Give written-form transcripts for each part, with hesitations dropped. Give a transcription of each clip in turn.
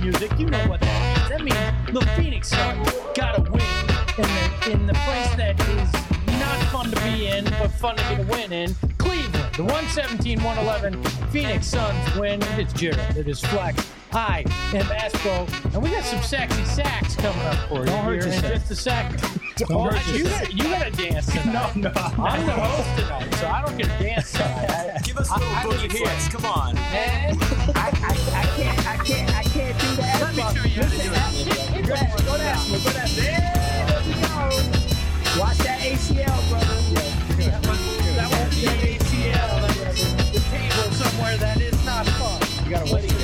music, you know what that means. That means the Phoenix Suns got to win in the place that is not fun to be in, but fun to get a win in. Cleveland, the 117-111 Phoenix Suns win. It's Jared. It is Flex. I am Espo, and we got some sexy sacks coming up for you Don't hurt here in yourself. just a second. Don't hurt You got to dance tonight. No. I'm the host tonight, so I don't get to dance tonight. Give us a little boogie flex. Come on. And I can't do that. let me show you how to do it. Go down. There we go. Watch that ACL, brother. That won't be an ACL. That's the table somewhere that is not fun. You gotta wait.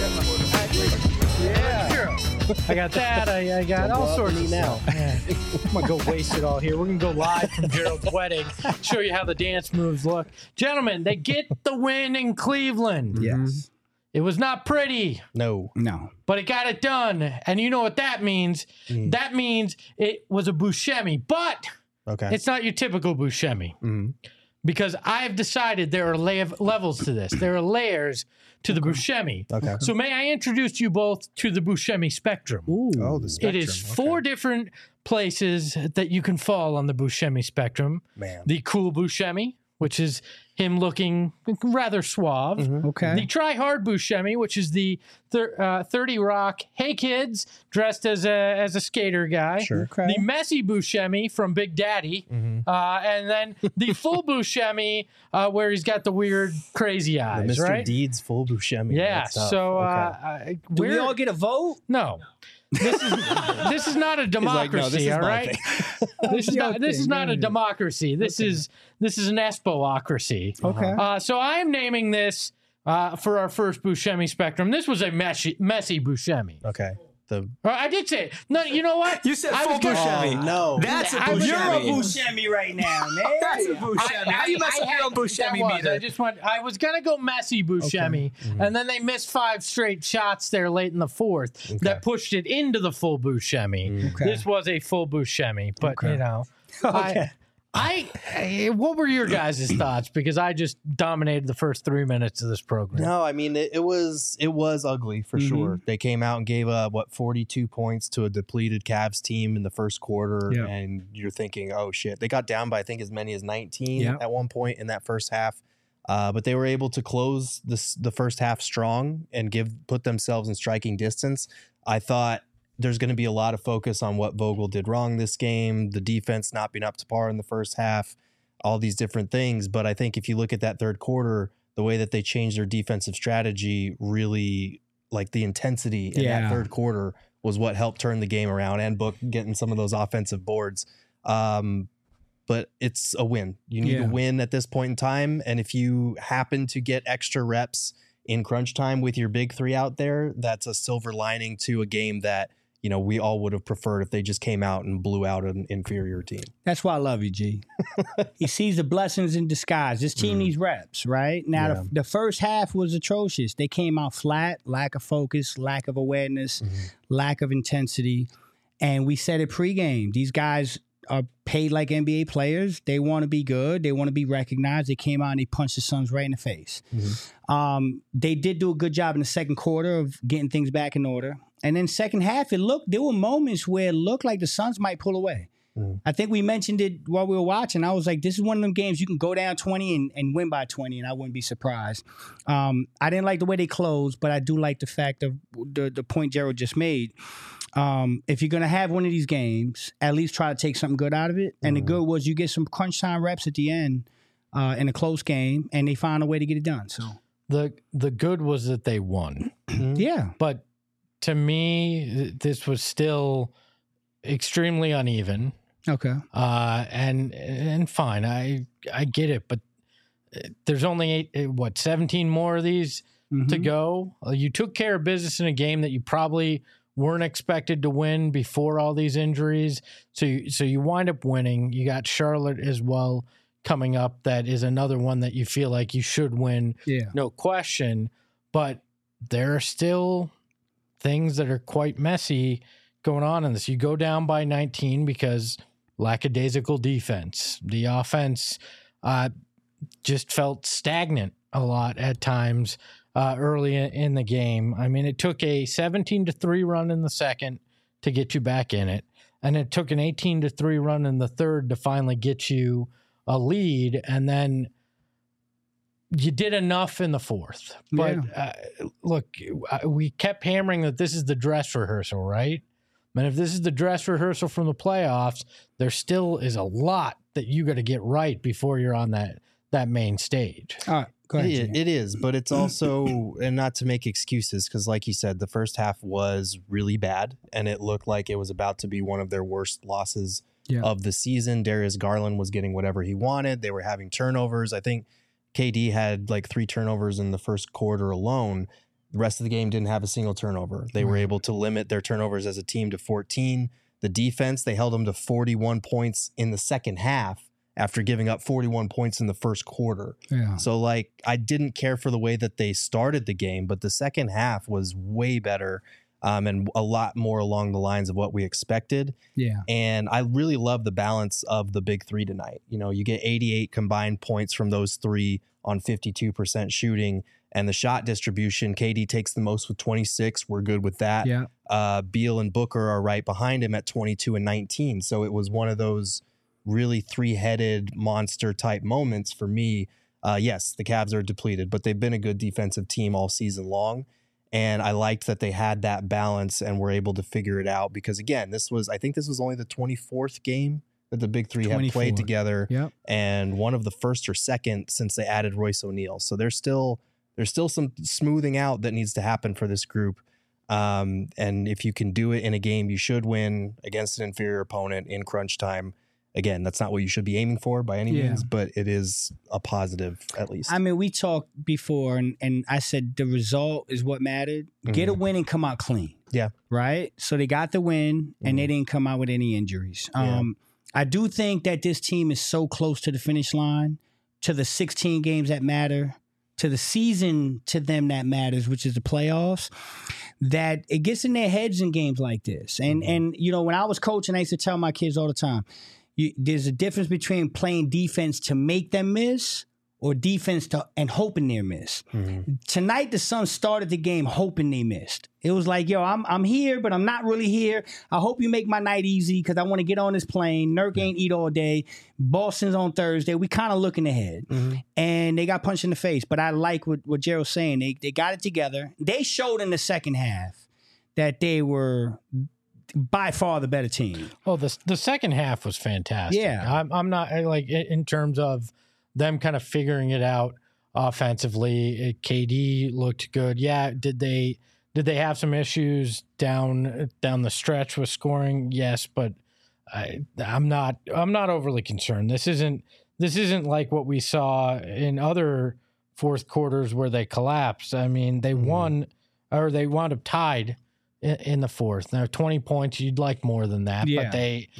Yeah. I got that. I got all sorts of now. stuff. Yeah. I'm going to go waste it all here. We're going to go live from Gerald's wedding, show you how the dance moves look. Gentlemen, they get the win in Cleveland. Yes. It was not pretty, No. but it got it done. And you know what that means? That means it was a Buscemi, but it's not your typical Buscemi. Because I've decided there are levels to this. There are layers to the Buscemi. Okay. So may I introduce you both to the Buscemi spectrum? Oh, the spectrum. It is four different places that you can fall on the Buscemi spectrum. Man. The cool Buscemi, which is him looking rather suave. Okay. The Try Hard Buscemi, which is the 30 Rock, hey kids, dressed as a skater guy. Sure. Okay. The Messy Buscemi from Big Daddy. And then the full Buscemi, where he's got the weird, crazy eyes, The Mr. right? Deeds full Buscemi. Yeah. That's tough. So Okay. Do we all get a vote? no. This is not a democracy, no, this is all my right? This is not a democracy. This is an Espo-ocracy. Okay. So I am naming this for our first Buscemi spectrum. This was a messy Buscemi. Okay. I did say it. No, you know what? You said I full was gonna- Buscemi. Oh, no. That's a I was- Buscemi. You're a Buscemi right now, man. That's a Buscemi. How you mess up your own Buscemi meter? I was gonna go messy Buscemi, and then they missed 5 straight shots there late in the fourth that pushed it into the full Buscemi. Okay. This was a full Buscemi, but you know, Okay. what were your guys' thoughts? Because I just dominated the first 3 minutes of this program. No, I mean it was ugly for sure. They came out and gave up 42 points to a depleted Cavs team in the first quarter, Yeah. and you're thinking, oh shit, they got down by I think as many as 19 Yeah. at one point in that first half. But they were able to close the first half strong and put themselves in striking distance. I thought there's going to be a lot of focus on what Vogel did wrong this game, the defense not being up to par in the first half, all these different things. But I think if you look at that third quarter, the way that they changed their defensive strategy, really like the intensity in that third quarter was what helped turn the game around and Book getting some of those offensive boards. But it's a win. You need to win at this point in time. And if you happen to get extra reps in crunch time with your big three out there, that's a silver lining to a game that, you know, we all would have preferred if they just came out and blew out an inferior team. That's why I love you, G. He sees the blessings in disguise. This team needs reps, right? Now, the first half was atrocious. They came out flat, lack of focus, lack of awareness, lack of intensity. And we said it pregame. These guys are paid like NBA players. They want to be good. They want to be recognized. They came out and they punched the Suns right in the face. They did do a good job in the second quarter of getting things back in order. And then second half, there were moments where it looked like the Suns might pull away. I think we mentioned it while we were watching. I was like, this is one of them games you can go down 20 and win by 20, and I wouldn't be surprised. I didn't like the way they closed, but I do like the fact of the point Gerald just made. If you're going to have one of these games, at least try to take something good out of it. And the good was you get some crunch time reps at the end in a close game, and they found a way to get it done. So The good was that they won. yeah. But to me, this was still extremely uneven. Okay. And fine, I get it, but there's only 17 more of these to go. You took care of business in a game that you probably weren't expected to win before all these injuries. So you wind up winning. You got Charlotte as well coming up. That is another one that you feel like you should win. Yeah. No question. But there are still things that are quite messy going on in this. You go down by 19 because lackadaisical defense. The offense just felt stagnant a lot at times. early in the game. I mean, it took a 17-3 run in the second to get you back in it, and it took an 18-3 run in the third to finally get you a lead, and then you did enough in the fourth. But look, we kept hammering that this is the dress rehearsal, right? And if this is the dress rehearsal from the playoffs, there still is a lot that you got to get right before you're on that main stage. All right. Go ahead, it is, but it's also, and not to make excuses, because like you said, the first half was really bad, and it looked like it was about to be one of their worst losses of the season. Darius Garland was getting whatever he wanted. They were having turnovers. I think KD had like 3 turnovers in the first quarter alone. The rest of the game didn't have a single turnover. They were able to limit their turnovers as a team to 14. The defense, they held them to 41 points in the second half, after giving up 41 points in the first quarter. Yeah. So, like, I didn't care for the way that they started the game, but the second half was way better and a lot more along the lines of what we expected. Yeah. And I really love the balance of the big three tonight. You know, you get 88 combined points from those three on 52% shooting, and the shot distribution, KD takes the most with 26. We're good with that. Yeah. Beal and Booker are right behind him at 22 and 19. So it was one of those really 3-headed monster type moments for me. Yes, the Cavs are depleted, but they've been a good defensive team all season long. And I liked that they had that balance and were able to figure it out, because again, I think this was only the 24th game that the big three have played together. Yep. And one of the first or second since they added Royce O'Neal. So there's still some smoothing out that needs to happen for this group. And if you can do it in a game you should win against an inferior opponent in crunch time, again, that's not what you should be aiming for by any means, but it is a positive at least. I mean, we talked before, and I said the result is what mattered. Get a win and come out clean. Yeah. Right? So they got the win, and they didn't come out with any injuries. I do think that this team is so close to the finish line, to the 16 games that matter, to the season to them that matters, which is the playoffs, that it gets in their heads in games like this. And you know, when I was coaching, I used to tell my kids all the time, there's a difference between playing defense to make them miss or defense and hoping they miss. Tonight, the Suns started the game hoping they missed. It was like, yo, I'm here, but I'm not really here. I hope you make my night easy because I want to get on this plane. Nurk ain't eat all day. Boston's on Thursday. We kind of looking ahead. And they got punched in the face. But I like what Gerald's saying. They got it together. They showed in the second half that they were by far the better team. Oh, the second half was fantastic. Yeah. I'm not, like, in terms of them kind of figuring it out offensively. KD looked good. Yeah, did they have some issues down the stretch with scoring? Yes, but I'm not overly concerned. This isn't like what we saw in other fourth quarters where they collapsed. I mean, they won, or they wound up tied in the fourth. Now 20 points, you'd like more than that, but they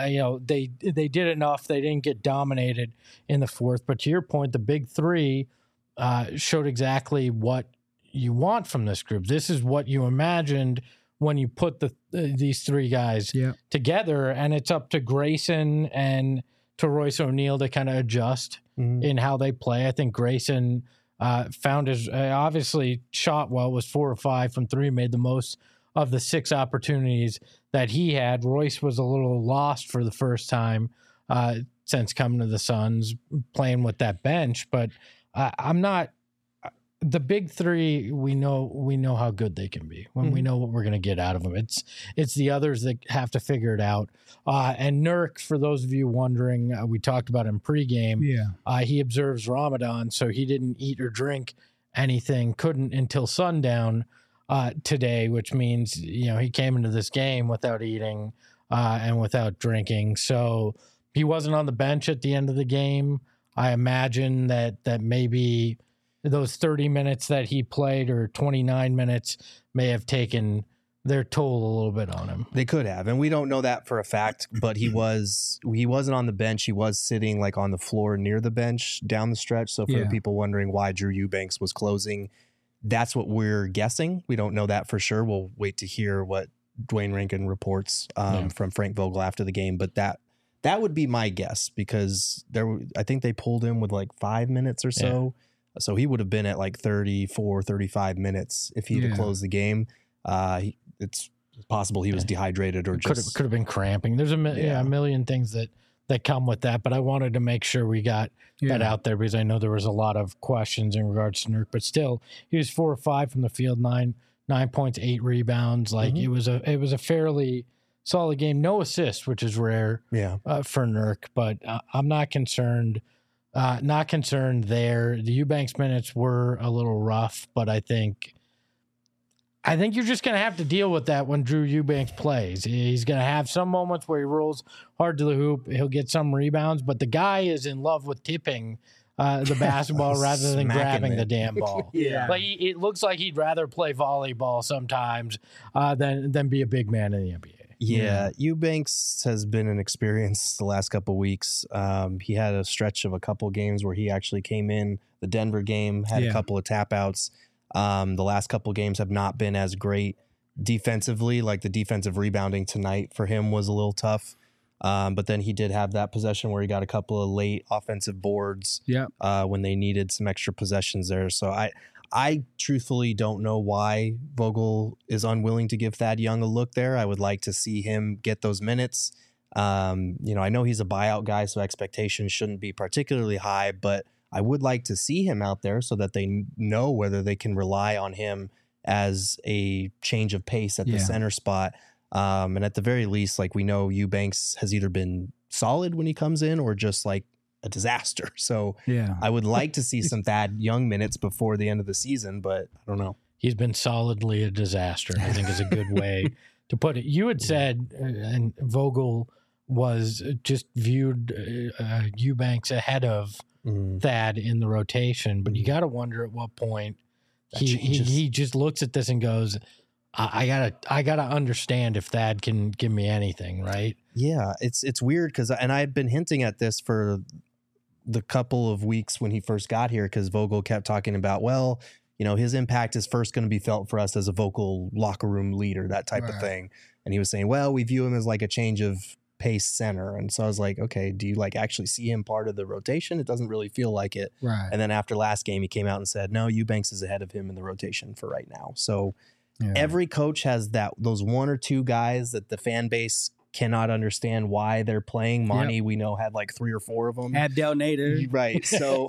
did enough. They didn't get dominated in the fourth. But to your point, the big three showed exactly what you want from this group. This is what you imagined when you put these three guys together, and it's up to Grayson and to Royce O'Neal to kind of adjust in how they play. I think Grayson found his obviously shot well, was 4 or 5 from 3, made the most of the 6 opportunities that he had. Royce was a little lost for the first time since coming to the Suns, playing with that bench. But I'm not. The big three, we know how good they can be when we know what we're going to get out of them. It's the others that have to figure it out. And Nurk, for those of you wondering, we talked about him pregame. He observes Ramadan, so he didn't eat or drink anything, couldn't until sundown today, which means, you know, he came into this game without eating and without drinking. So he wasn't on the bench at the end of the game. I imagine that maybe those 30 minutes that he played, or 29 minutes, may have taken their toll a little bit on him. They could have, and we don't know that for a fact, but he wasn't on the bench. He was sitting like on the floor near the bench down the stretch. So for the people wondering why Drew Eubanks was closing, that's what we're guessing. We don't know that for sure. We'll wait to hear what Dwayne Rankin reports from Frank Vogel after the game, but that would be my guess, because I think they pulled him with like 5 minutes or so So he would have been at like 34, 35 minutes if he'd have closed the game. It's possible he was dehydrated or just could have been cramping. There's a million things that come with that, but I wanted to make sure we got that out there because I know there was a lot of questions in regards to Nurk, but still he was 4 or 5 from the field, 9 points, 8 rebounds. Like it was a fairly solid game. No assists, which is rare for Nurk, but I'm not concerned. Not concerned there. The Eubanks minutes were a little rough, but I think you're just going to have to deal with that when Drew Eubanks plays. He's going to have some moments where he rolls hard to the hoop. He'll get some rebounds, but the guy is in love with tipping the basketball rather than grabbing the damn ball. Like it looks like he'd rather play volleyball sometimes than be a big man in the NBA. Yeah, Eubanks has been an experience the last couple of weeks. He had a stretch of a couple of games where he actually came in. The Denver game had a couple of tap outs. The last couple of games have not been as great defensively. Like the defensive rebounding tonight for him was a little tough. But then he did have that possession where he got a couple of late offensive boards when they needed some extra possessions there. So I truthfully don't know why Vogel is unwilling to give Thad Young a look there. I would like to see him get those minutes. I know he's a buyout guy, so expectations shouldn't be particularly high, but I would like to see him out there so that they know whether they can rely on him as a change of pace at the center spot. And at the very least, like we know Eubanks has either been solid when he comes in or just like a disaster. So I would like to see some Thad Young minutes before the end of the season, but I don't know. He's been solidly a disaster, I think is a good way to put it. You had said, and Vogel was just viewed Eubanks ahead of Thad in the rotation, but you got to wonder at what point he just looks at this and goes, I gotta understand if Thad can give me anything, right? Yeah, it's weird because I've been hinting at this for the couple of weeks when he first got here because Vogel kept talking about, well, his impact is first going to be felt for us as a vocal locker room leader, that type of thing. And he was saying, well, we view him as like a change of pace center. And so I was like, okay, do you like actually see him part of the rotation? It doesn't really feel like it. Right. And then after last game, he came out and said, no, Eubanks is ahead of him in the rotation for right now. So every coach has those 1 or 2 guys that the fan base cannot understand why they're playing. Monty, we know, had like 3 or 4 of them. Abdel Nader. Right. So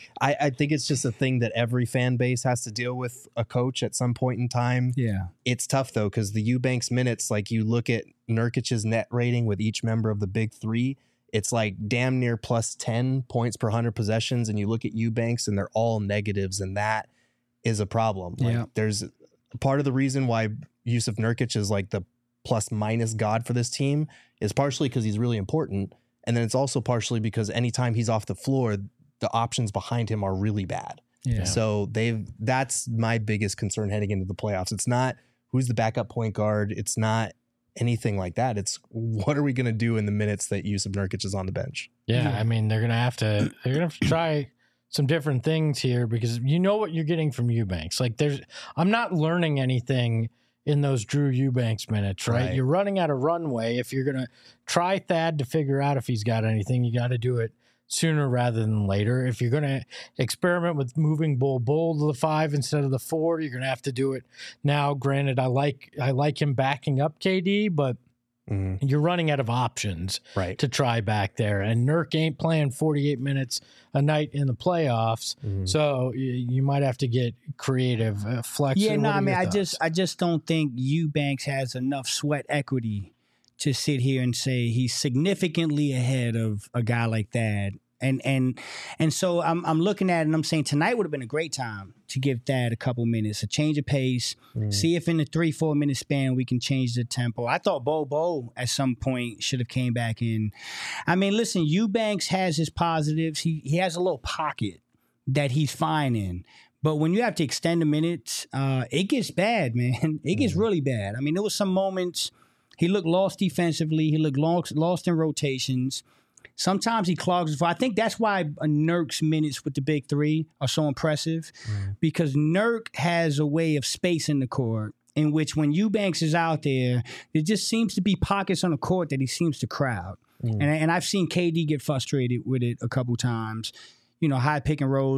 I think it's just a thing that every fan base has to deal with a coach at some point in time. Yeah. It's tough, though, because the Eubanks minutes, like you look at Nurkic's net rating with each member of the big 3, it's like damn near plus 10 points per 100 possessions. And you look at Eubanks and they're all negatives. And that is a problem. Like there's part of the reason why Jusuf Nurkic is like the plus minus god for this team is partially because he's really important. And then it's also partially because anytime he's off the floor, the options behind him are really bad. Yeah. So that's my biggest concern heading into the playoffs. It's not who's the backup point guard. It's not anything like that. It's what are we going to do in the minutes that Jusuf Nurkic is on the bench? Yeah. I mean, they're going to have to try some different things here because you know what you're getting from Eubanks. Like I'm not learning anything in those Drew Eubanks minutes, right? You're running out of runway. If you're going to try Thad to figure out if he's got anything, you got to do it sooner rather than later. If you're going to experiment with moving Bull to the 5 instead of the 4, you're going to have to do it now. Granted, I like him backing up KD, but you're running out of options to try back there. And Nurk ain't playing 48 minutes a night in the playoffs, so you might have to get creative, flex. Yeah, no, I mean, I just don't think Eubanks has enough sweat equity to sit here and say he's significantly ahead of a guy like that. And so I'm looking at it and I'm saying tonight would have been a great time to give Thad a couple minutes, a change of pace, see if in the 3-4 minute span we can change the tempo. I thought Bo at some point should have came back in. I mean, listen, Eubanks has his positives. He has a little pocket that he's fine in. But when you have to extend the minutes, it gets bad, man. It gets really bad. I mean, there was some moments he looked lost defensively. He looked lost in rotations. Sometimes he clogs. I think that's why Nurk's minutes with the big 3 are so impressive because Nurk has a way of spacing the court in which when Eubanks is out there, there just seems to be pockets on the court that he seems to crowd. And I've seen KD get frustrated with it a couple times. High pick and rolls,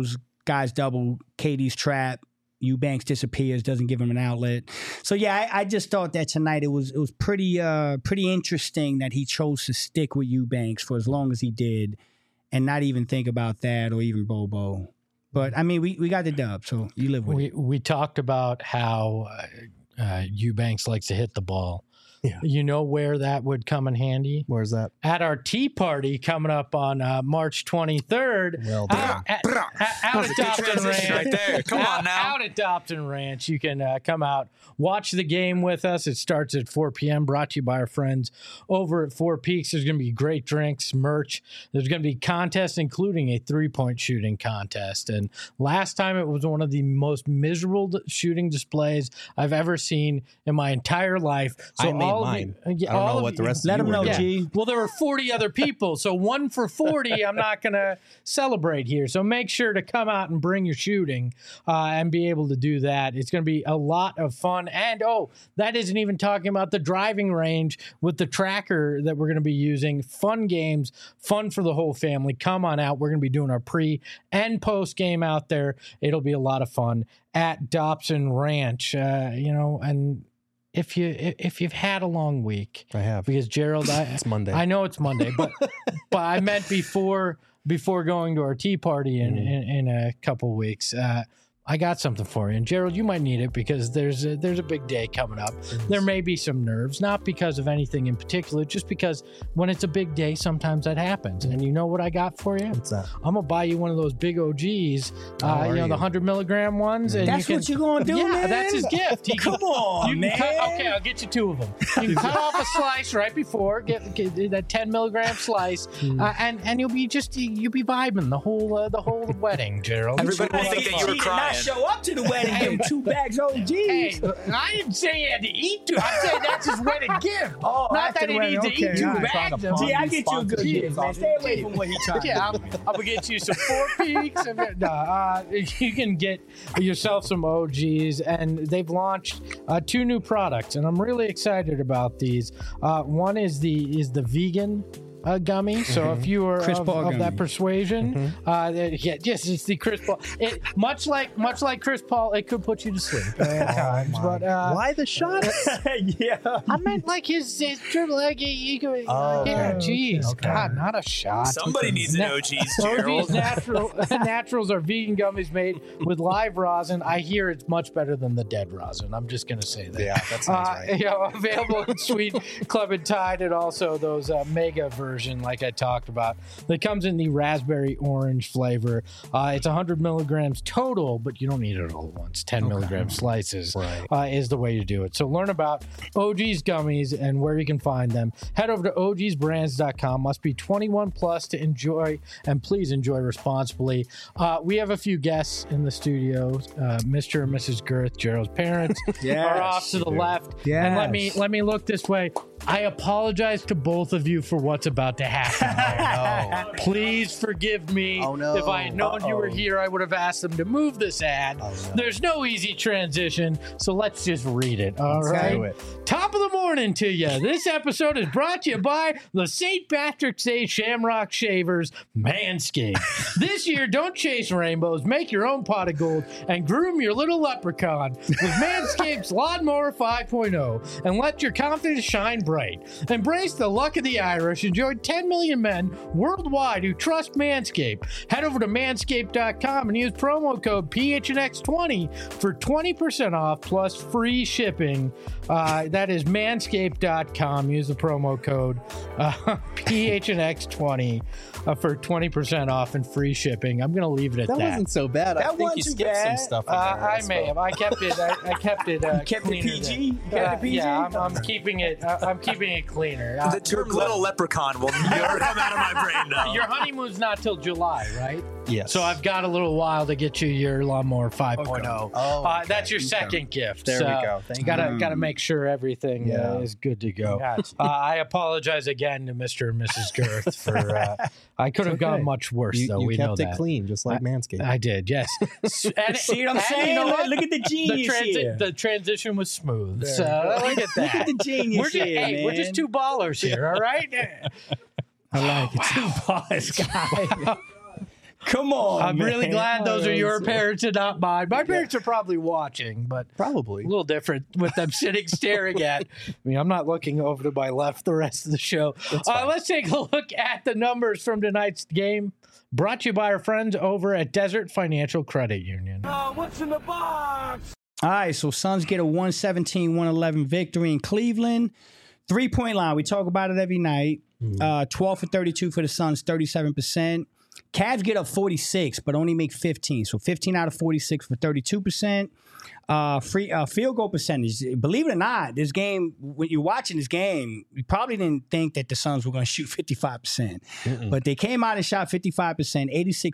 guys double, KD's trap. Eubanks disappears, doesn't give him an outlet. So yeah, I just thought that tonight it was pretty interesting that he chose to stick with Eubanks for as long as he did, and not even think about that or even Bobo. But I mean, we got the dub, so you live with it. We talked about how Eubanks likes to hit the ball. Yeah. You know where that would come in handy? Where's that? At our tea party coming up on March 23rd. Well done. Out at Dobson Ranch. Right there. Come on now. Out at Dobson Ranch. You can come out, watch the game with us. It starts at 4 p.m. Brought to you by our friends over at Four Peaks. There's going to be great drinks, merch. There's going to be contests, including a 3-point shooting contest. And last time it was one of the most miserable shooting displays I've ever seen in my entire life. So I made mine. I don't know what the rest of Let you them were know, doing. G. Well, there were 40 other people, so 1 for 40. I'm not going to celebrate here. So make sure to come out and bring your shooting and be able to do that. It's going to be a lot of fun. And, that isn't even talking about the driving range with the tracker that we're going to be using. Fun games, fun for the whole family. Come on out. We're going to be doing our pre and post game out there. It'll be a lot of fun at Dobson Ranch, and if you've had a long week, I have, because Gerald, it's Monday. I know it's Monday, but I meant before going to our tea party in a couple weeks. I got something for you, and Gerald, you might need it because there's a big day coming up. There may be some nerves, not because of anything in particular, just because when it's a big day, sometimes that happens. And you know what I got for you? What's that? I'm gonna buy you one of those big OGs, the 100 milligram ones. And That's what you're gonna do, yeah, man? that's his gift. Come on, man. Okay, I'll get you 2 of them. You can cut off a slice right before, get that 10 milligram slice, and you'll be vibing the whole wedding, Gerald. Everybody will think that you were crying. Show up to the wedding game 2 bags OGs. Hey, I didn't say he had to eat 2. I said that's his wedding gift. Oh, not that he needs to eat 2 bags. See, I get you a good gift, man. Stay away from what he trying to do. I'm gonna get you some Four Peaks. You can get yourself some OGs, and they've launched 2 new products, and I'm really excited about these. One is the vegan gummy. So if you are of that persuasion, yes, it's the Chris Paul. Much like Chris Paul, it could put you to sleep at times. But why the shot? Yeah, I meant like his triple leg. Geez, God, not a shot. Somebody needs an OGs, Gerald. OG's Naturals are vegan gummies made with live rosin. I hear it's much better than the dead rosin. I'm just gonna say that. Yeah, that sounds right. Available in Sweet Club and Tide, and also those mega versions like I talked about. That comes in the raspberry orange flavor. It's 100 milligrams total, but you don't need it all at once. 10 milligram slices is the way to do it. So learn about OG's gummies and where you can find them. Head over to ogsbrands.com. Must be 21 plus to enjoy, and please enjoy responsibly. We have a few guests in the studio. Mr. and Mrs. Girth, Gerald's parents, are off to the left. Yes. And let me look this way. I apologize to both of you for what's about to happen. Please forgive me. If I had known you were here, I would have asked them to move this ad. There's no easy transition, so let's just read it. All right. Top of the morning to you. This episode is brought to you by the St. Patrick's Day Shamrock Shavers, Manscaped. This year, don't chase rainbows. Make your own pot of gold and groom your little leprechaun with Manscaped's Lawnmower 5.0 and let your confidence shine bright. Embrace the luck of the Irish. Enjoy 10 million men worldwide who trust Manscaped. Head over to manscaped.com and use promo code PHNX20 for 20% off plus free shipping. That is manscaped.com. Use the promo code PHNX20 for 20% off and free shipping. I'm going to leave it at that. That wasn't so bad. I think you skipped some stuff. I may have. I kept it. I kept it. kept it PG. Yeah, I'm keeping it. I'm keeping it cleaner. The term "little leprechaun" will never come out of my brain now. Your honeymoon's not till July, right? Yes. So I've got a little while to get you your Lawnmower 5.0. That's your second gift. There we go. Thank you. Got to make sure everything is good to go. I apologize again to Mr. and Mrs. Girth for. I could have gone much worse, though. You we know kept that. it clean, just like Manscaped. I did, yes. See what I'm saying? You know what? Look at the genius here. The transition was smooth. So look at that. Look at the genius man. We're just 2 ballers here, all right? I like it. 2 ballers, guy. Come on. I'm really man. glad those are your parents and not mine. My parents are probably watching, but Probably. a little different with them sitting staring at. I mean, I'm not looking over to my left the rest of the show. Let's take a look at the numbers from tonight's game. Brought to you by our friends over at Desert Financial Credit Union. What's in the box? All right, so Suns get a 117-111 victory in Cleveland. 3-point line, we talk about it every night. 12 for 32 for the Suns, 37%. Cavs get up 46, but only make 15. So 15 out of 46 for 32%. Field goal percentage. Believe it or not, this game, when you're watching this game, you probably didn't think that the Suns were going to shoot 55%. But they came out and shot 55%,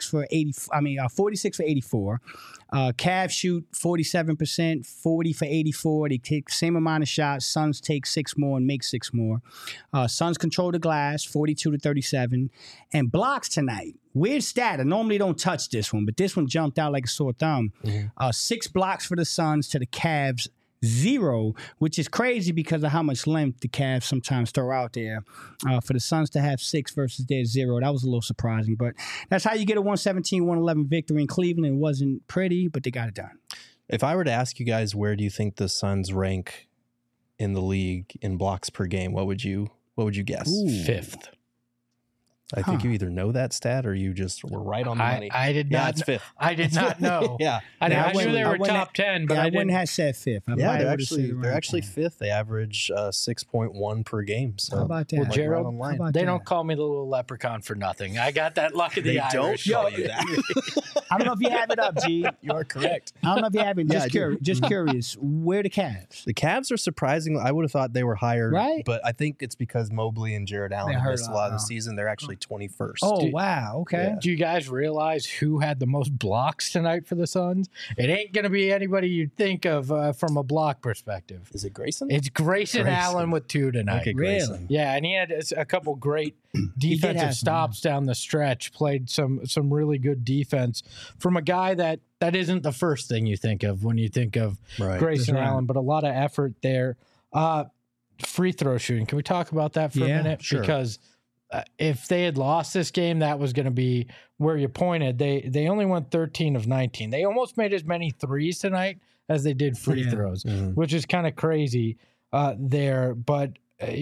46 for 84. Cavs shoot 47%, 40 for 84. They take the same amount of shots. Suns take 6 more and make 6 more. Suns control the glass, 42 to 37. And blocks tonight. Weird stat. I normally don't touch this one, but this one jumped out like a sore thumb. 6 blocks for the Suns to the Cavs 0, which is crazy because of how much length the Cavs sometimes throw out there. For the Suns to have 6 versus their 0, that was a little surprising. But that's how you get a 117-111 victory in Cleveland. It wasn't pretty, but they got it done. If I were to ask you guys, where do you think the Suns rank in the league in blocks per game? What would you guess? Fifth. I think you either know that stat or you just were right on the money. I did not. It's fifth. I did not know. Yeah. I knew they were top 10, but I wouldn't have said fifth. They're actually fifth. They average 6.1 per game. So how about that? Well, Gerald, right on they don't call me the little leprechaun for nothing. I got that luck of the Irish. Don't call you that. I don't know if you have it up, G. You are correct. I don't know if you have it. Just curious. Where the Cavs? The Cavs are surprising. I would have thought they were higher, right? But I think it's because Mobley and Jared Allen have missed a lot of the season. They're actually 21st. Oh, wow. Okay. Yeah. Do you guys realize who had the most blocks tonight for the Suns? It ain't going to be anybody you'd think of from a block perspective. Is it Grayson? It's Grayson Allen with 2 tonight. Really? Yeah, and he had a couple great defensive stops down the stretch, played some really good defense from a guy that isn't the first thing you think of when you think of Grayson Allen, but a lot of effort there. Free throw shooting. Can we talk about that for a minute? Sure. Because if they had lost this game, that was going to be where you pointed. They only went 13 of 19. They almost made as many threes tonight as they did free throws, which is kind of crazy there. But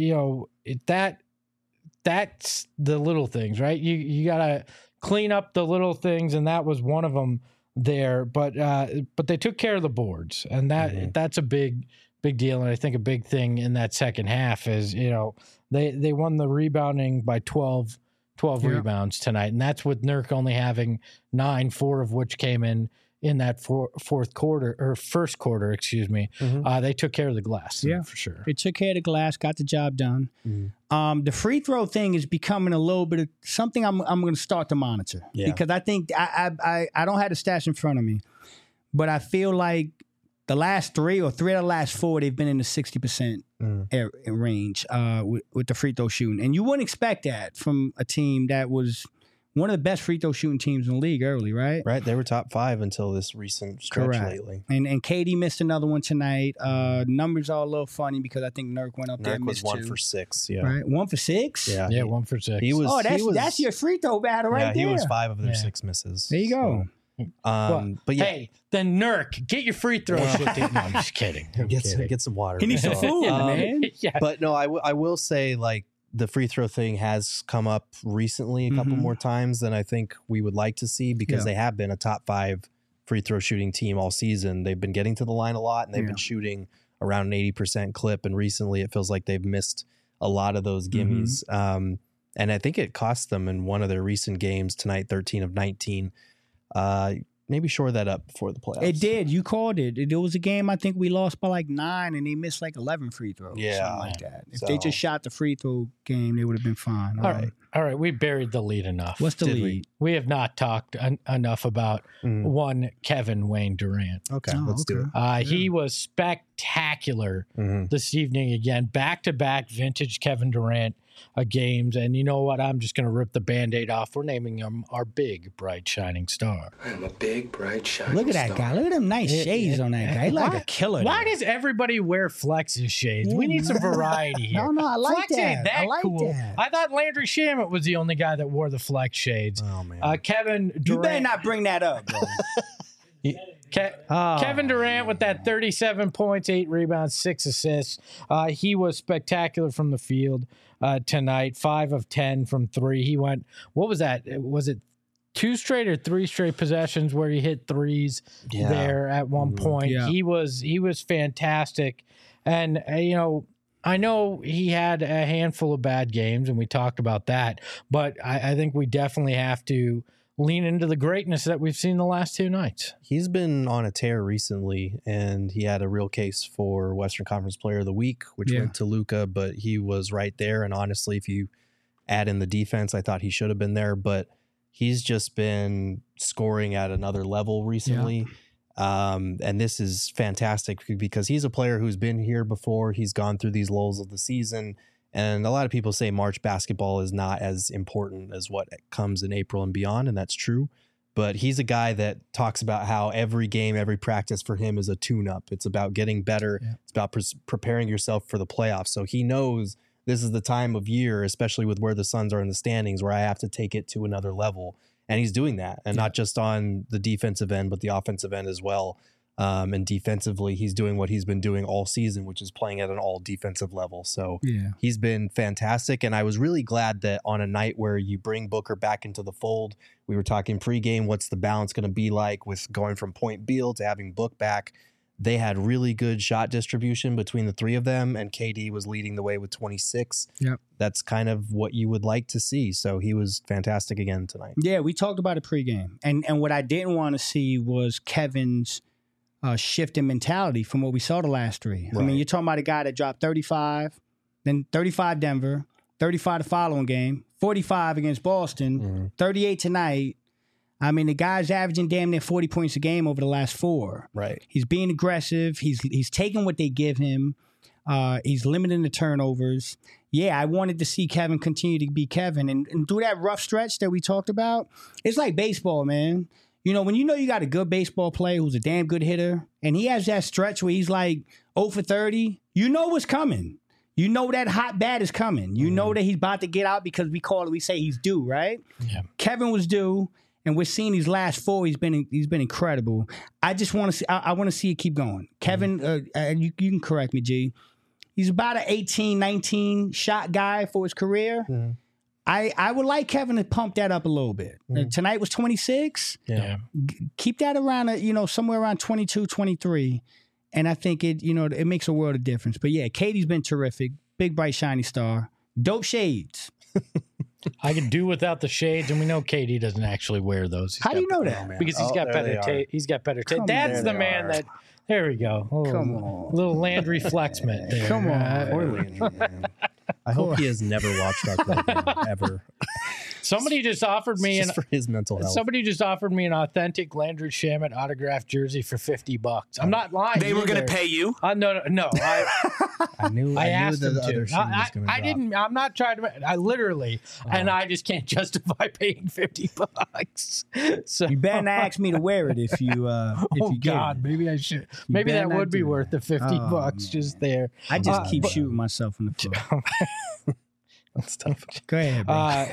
that's the little things, right? You got to clean up the little things, and that was one of them there. But they took care of the boards, and that's a big deal. And I think a big thing in that second half is they won the rebounding by 12 rebounds tonight, and that's with Nurk only having 9, 4 of which came in that first quarter, excuse me. They took care of the glass, for sure. They took care of the glass, got the job done. The free throw thing is becoming a little bit of something I'm going to start to monitor because I think I don't have the stats in front of me, but I feel like the last 3 or 3 of the last 4, they've been in the 60% range with the free throw shooting. And you wouldn't expect that from a team that was one of the best free throw shooting teams in the league early, right? Right. They were top 5 until this recent stretch lately. And KD missed another one tonight. Numbers are a little funny because I think Nurk went up there and missed 2. Nurk was 1 for 6. Yeah. Right. 1 for 6? Yeah, 1 for 6. That's your free throw battle right there. He was 5 of their 6 misses. There you go. But hey, then Nurk, get your free throw shit. No, I'm just kidding. Get some water. He needs some food, man. But no, I will say, like, the free throw thing has come up recently a couple more times than I think we would like to see because they have been a top 5 free throw shooting team all season. They've been getting to the line a lot, and they've been shooting around an 80% clip. And recently, it feels like they've missed a lot of those gimmies. And I think it cost them in one of their recent games tonight, 13 of 19. Maybe shore that up before the playoffs. It did. You called it. It was a game I think we lost by like 9, and they missed like 11 free throws. Yeah, something like that. If they just shot the free throw game, they would have been fine. All right. We buried the lead enough. What's the lead? We have not talked enough about one Kevin Wayne Durant. Okay, let's do it. He was spectacular this evening again. Back-to-back vintage Kevin Durant games. And you know what? I'm just going to rip the Band-Aid off. We're naming him our big, bright, shining star. I'm a big, bright, shining Look at that guy. Look at them nice shades on that guy. He's like a killer. Why does everybody wear Flex's shades? We need some variety here. No, I like Flex that. ain't that I like cool. that. I thought Landry Shamet was the only guy that wore the Flex shades. Oh, man. Kevin Durant. You better not bring that up, bro. Kevin Durant with that 37 points, 8 rebounds, 6 assists. He was spectacular from the field tonight. 5 of 10 from 3. He went, what was that? Was it 2 straight or 3 straight possessions where he hit threes there at one point? Yeah. He was fantastic. And, I know he had a handful of bad games, and we talked about that. But I think we definitely have to lean into the greatness that we've seen the last 2 nights. He's been on a tear recently, and he had a real case for Western Conference Player of the Week, which went to Luka, but he was right there. And honestly, if you add in the defense, I thought he should have been there, but he's just been scoring at another level recently. And this is fantastic because he's a player who's been here before. He's gone through these lulls of the season. And a lot of people say March basketball is not as important as what comes in April and beyond, and that's true. But he's a guy that talks about how every game, every practice for him is a tune-up. It's about getting better. Yeah. It's about preparing yourself for the playoffs. So he knows this is the time of year, especially with where the Suns are in the standings, where I have to take it to another level. And he's doing that, and not just on the defensive end, but the offensive end as well. And defensively, he's doing what he's been doing all season, which is playing at an all defensive level. So he's been fantastic. And I was really glad that on a night where you bring Booker back into the fold, we were talking pregame, what's the balance going to be like with going from Point Beal to having Book back? They had really good shot distribution between the 3 of them, and KD was leading the way with 26. Yep. That's kind of what you would like to see. So he was fantastic again tonight. Yeah, we talked about it pregame. And what I didn't want to see was Kevin's shift in mentality from what we saw the last 3. Right. I mean, you're talking about a guy that dropped 35, then 35 Denver, 35 the following game, 45 against Boston, 38 tonight. I mean, the guy's averaging damn near 40 points a game over the last 4. Right. He's being aggressive. He's taking what they give him. He's limiting the turnovers. Yeah, I wanted to see Kevin continue to be Kevin. And through that rough stretch that we talked about, it's like baseball, man. When you got a good baseball player who's a damn good hitter, and he has that stretch where he's like 0 for 30, you know what's coming. You know that hot bat is coming. You know that he's about to get out because we say he's due, right? Yeah. Kevin was due, and we're seeing these last 4. He's been incredible. I just want to see. I want to see it keep going. Kevin, you can correct me, G. He's about an 18, 19 shot guy for his career. Mm-hmm. I would like Kevin to pump that up a little bit. Tonight was 26. Yeah. Keep that around, somewhere around 22, 23. And I think it makes a world of difference. But yeah, Katie's been terrific. Big, bright, shiny star. Dope shades. I can do without the shades, and we know KD doesn't actually wear those. How do you know that? Because he's got better taste. He's got better taste. That's the man that. There we go. Come on. Little Landry Flexman there. Come on. Poor Landry, man. I hope he has never watched our program, ever. Somebody just offered me for his mental health. Somebody just offered me an authentic Landry Shamet autographed jersey for $50. I'm not lying. They were going to pay you? No. I knew asked the them other to. shoe was going to I didn't. I'm not trying to. I literally, and I just can't justify paying $50. So you better not ask me to wear it if you. Maybe I should. Maybe that would be worth the $50 just there. I just keep shooting myself in the foot. That's tough. Go ahead, bro.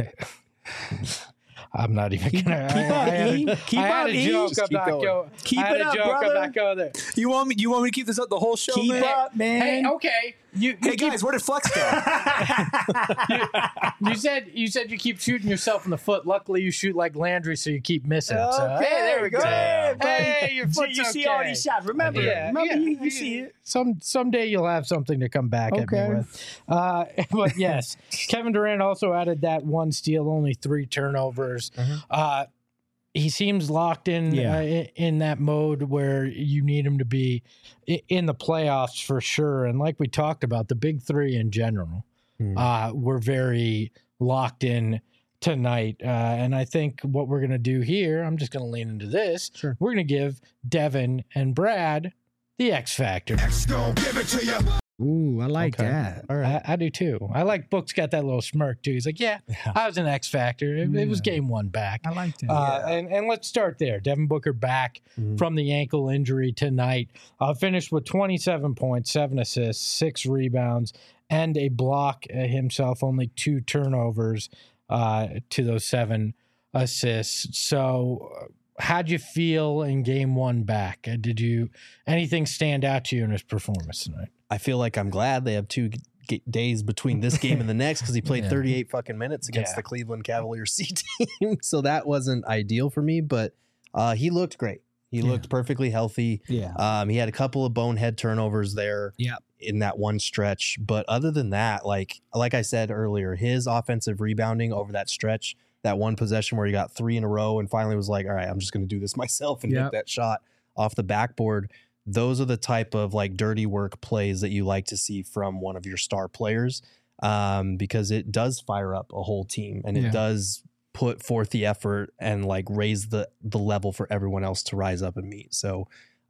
I'm not even gonna. Keep up, Keep it up, brother. You want me to keep this up the whole show? Keep up, man. Hey, okay. Hey guys, where did Flex go? You said you keep shooting yourself in the foot. Luckily, you shoot like Landry, so you keep missing. Okay, So, hey, there we go. Hey, your foot's you see all these shots. Remember, you see it. Someday you'll have something to come back at me with. But yes, Kevin Durant also added that 1 steal, only 3 turnovers. He seems locked in in that mode where you need him to be in the playoffs for sure. And like we talked about, the big 3 in general were very locked in tonight. And I think what we're going to do here, I'm just going to lean into this. Sure. We're going to give Devin and Brad the X Factor. X gon' give it to you. Ooh, I like that. All right. I do too. I like Book's got that little smirk too. He's like, yeah. I was an X factor. It was game one back. I like that. And let's start there. Devin Booker back from the ankle injury tonight. Finished with 27 points, 7 assists, 6 rebounds, and a block himself. Only 2 turnovers to those 7 assists. So how'd you feel in game one back? Did anything stand out to you in his performance tonight? I feel like I'm glad they have 2 days between this game and the next because he played 38 fucking minutes against the Cleveland Cavaliers C team. So that wasn't ideal for me, but he looked great. He looked perfectly healthy. Yeah. He had a couple of bonehead turnovers there in that one stretch. But other than that, like I said earlier, his offensive rebounding over that stretch, that one possession where he got 3 in a row and finally was like, all right, I'm just going to do this myself and hit that shot off the backboard. Those are the type of like dirty work plays that you like to see from one of your star players, because it does fire up a whole team and it does put forth the effort and like raise the level for everyone else to rise up and meet. So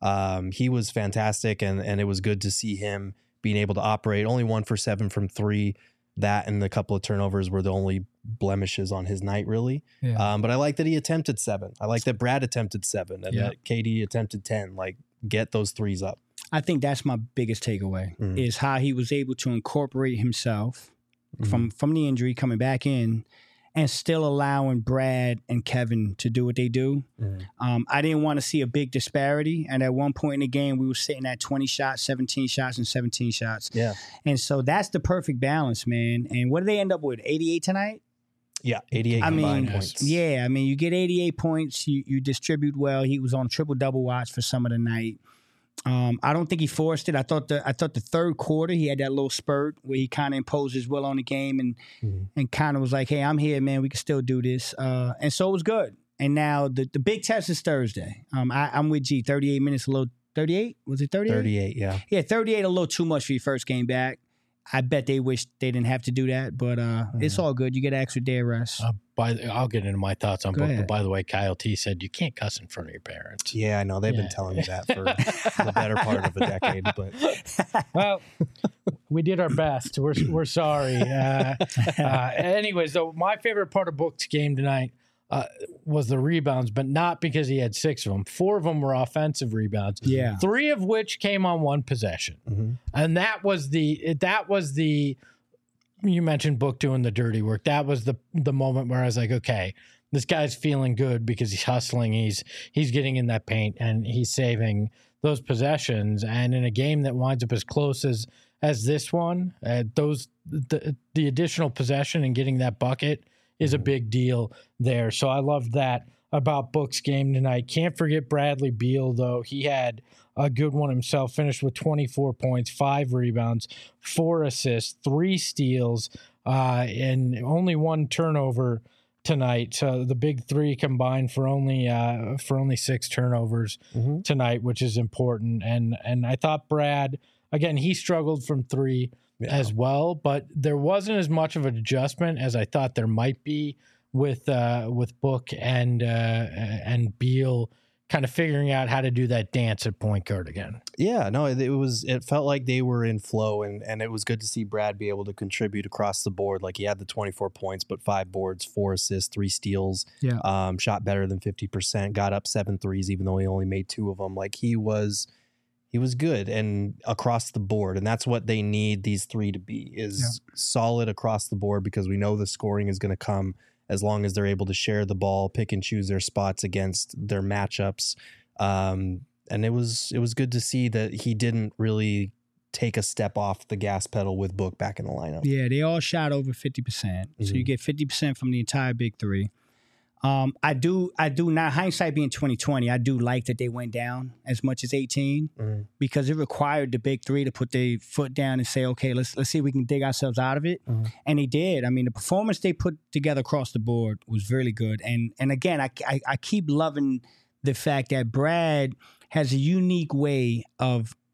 he was fantastic and it was good to see him being able to operate. Only 1 for 7 from 3. That and a couple of turnovers were the only blemishes on his night, really. Yeah. But I like that he attempted 7. I like that Brad attempted 7 and that KD attempted 10. Like, get those threes up. I think that's my biggest takeaway is how he was able to incorporate himself from the injury coming back in and still allowing Brad and Kevin to do what they do. I didn't want to see a big disparity. And at one point in the game, we were sitting at 20 shots, 17 shots, and 17 shots. Yeah. And so that's the perfect balance, man. And what did they end up with? 88 tonight? Yeah, 88 combined points. Yeah, I mean, you get 88 points. You distribute well. He was on triple-double watch for some of the night. I don't think he forced it. I thought the third quarter he had that little spurt where he kind of imposed his will on the game and kind of was like, hey, I'm here, man. We can still do this. And so it was good. And now the big test is Thursday. I'm with G. 38 minutes, a little 38? Was it 38? 38, yeah. Yeah, 38 a little too much for your first game back. I bet they wish they didn't have to do that, but it's all good. You get an extra day of rest. I'll get into my thoughts on Book. But by the way, Kyle T said you can't cuss in front of your parents. Yeah, I know. They've been telling me that for the better part of a decade. But well, we did our best. We're sorry. Anyways, though, my favorite part of Book's game tonight was the rebounds, but not because he had 6 of them. 4 of them were offensive rebounds. Yeah. 3 of which came on one possession. And that was the you mentioned Book doing the dirty work. That was the moment where I was like, okay, this guy's feeling good because he's hustling. He's getting in that paint and he's saving those possessions. And in a game that winds up as close as this one, the additional possession and getting that bucket is a big deal there. So I love that about Book's game tonight. Can't forget Bradley Beal, though. He had a good one himself, finished with 24 points, 5 rebounds, 4 assists, 3 steals, and only 1 turnover tonight. So the big 3 combined for only 6 turnovers tonight, which is important. And I thought Brad, again, he struggled from 3 as well, but there wasn't as much of an adjustment as I thought there might be with Book and Beal kind of figuring out how to do that dance at point guard again. Yeah, no, it felt like they were in flow and it was good to see Brad be able to contribute across the board. Like he had the 24 points, but 5 boards, 4 assists, 3 steals, shot better than 50%, got up 7 threes, even though he only made 2 of them. Like he was good and across the board. And that's what they need these 3 to be is solid across the board, because we know the scoring is going to come as long as they're able to share the ball, pick and choose their spots against their matchups. And it was good to see that he didn't really take a step off the gas pedal with Book back in the lineup. Yeah, they all shot over 50%. So you get 50% from the entire big 3. I do now, hindsight being 2020, I do like that they went down as much as 18 because it required the big 3 to put their foot down and say, okay, let's see if we can dig ourselves out of it. And they did. I mean, the performance they put together across the board was really good. And again, I keep loving the fact that Brad has a unique way of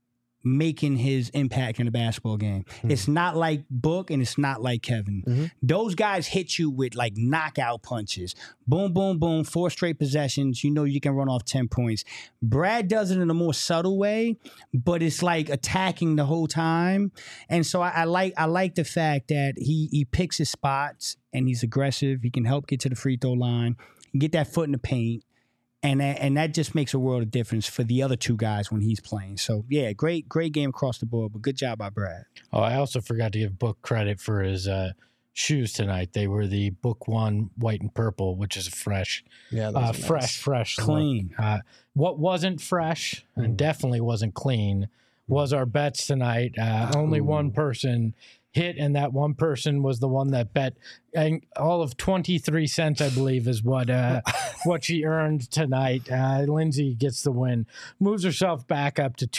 making his impact in the basketball game. It's not like Book and it's not like Kevin. Those guys hit you with like knockout punches. Boom, boom, boom, 4 straight possessions. You know you can run off 10 points. Brad does it in a more subtle way, but it's like attacking the whole time. And so I like the fact that he picks his spots and he's aggressive. He can help get to the free throw line, get that foot in the paint. And that just makes a world of difference for the other 2 guys when he's playing. So, yeah, great game across the board, but good job by Brad. Oh, I also forgot to give Book credit for his shoes tonight. They were the Book One white and purple, which is fresh. Yeah, fresh, clean. What wasn't fresh and definitely wasn't clean was our bets tonight. Only one person hit, and that one person was the one that bet, and all of 23 cents, I believe, is what she earned tonight. Lindsay gets the win, moves herself back up to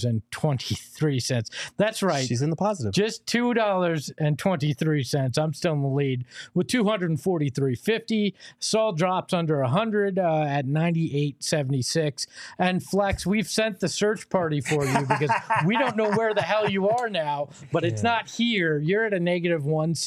$2.23. That's right. She's in the positive. Just $2.23. I'm still in the lead with $243.50. Saul drops under 100 at 98.76. And Flex, we've sent the search party for you because we don't know where the hell you are now, but it's not here. You're at a negative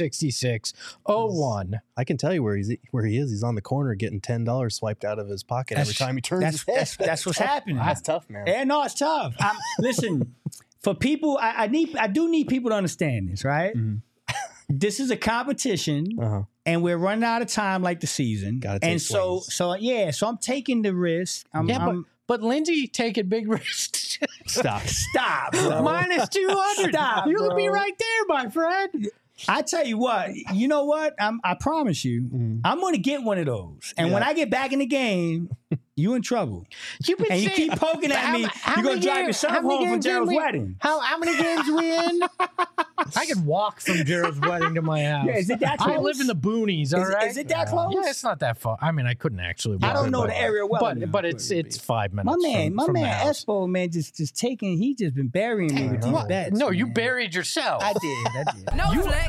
166.01. I can tell you where he is. He's on the corner getting $10 swiped out of his pocket every time he turns his head. That's what's happening. That's tough, man. Yeah, no, it's tough. Listen, for people, I do need people to understand this, right? This is a competition, and we're running out of time, like the season. And so I'm taking the risk. But Lindsay taking big risks. Stop, bro. Minus 200. Stop, You'll bro. be right there, my friend. I tell you what, you know what? I promise you, I'm going to get one of those. And when I get back in the game, you in trouble. You've been you keep poking at me, you're going to drive yourself home from Gerald's wedding. How many games we in? I could walk from Gerald's wedding to my house. Yeah, is it that close? I live in the boonies, all right? Is it that close? Yeah, it's not that far. I mean, I couldn't actually walk. I don't know the area well but it's 5 minutes. My from man the house. Espo, man, just taking, he just been burying me with these bets. No, man. you buried yourself. I did. No flex.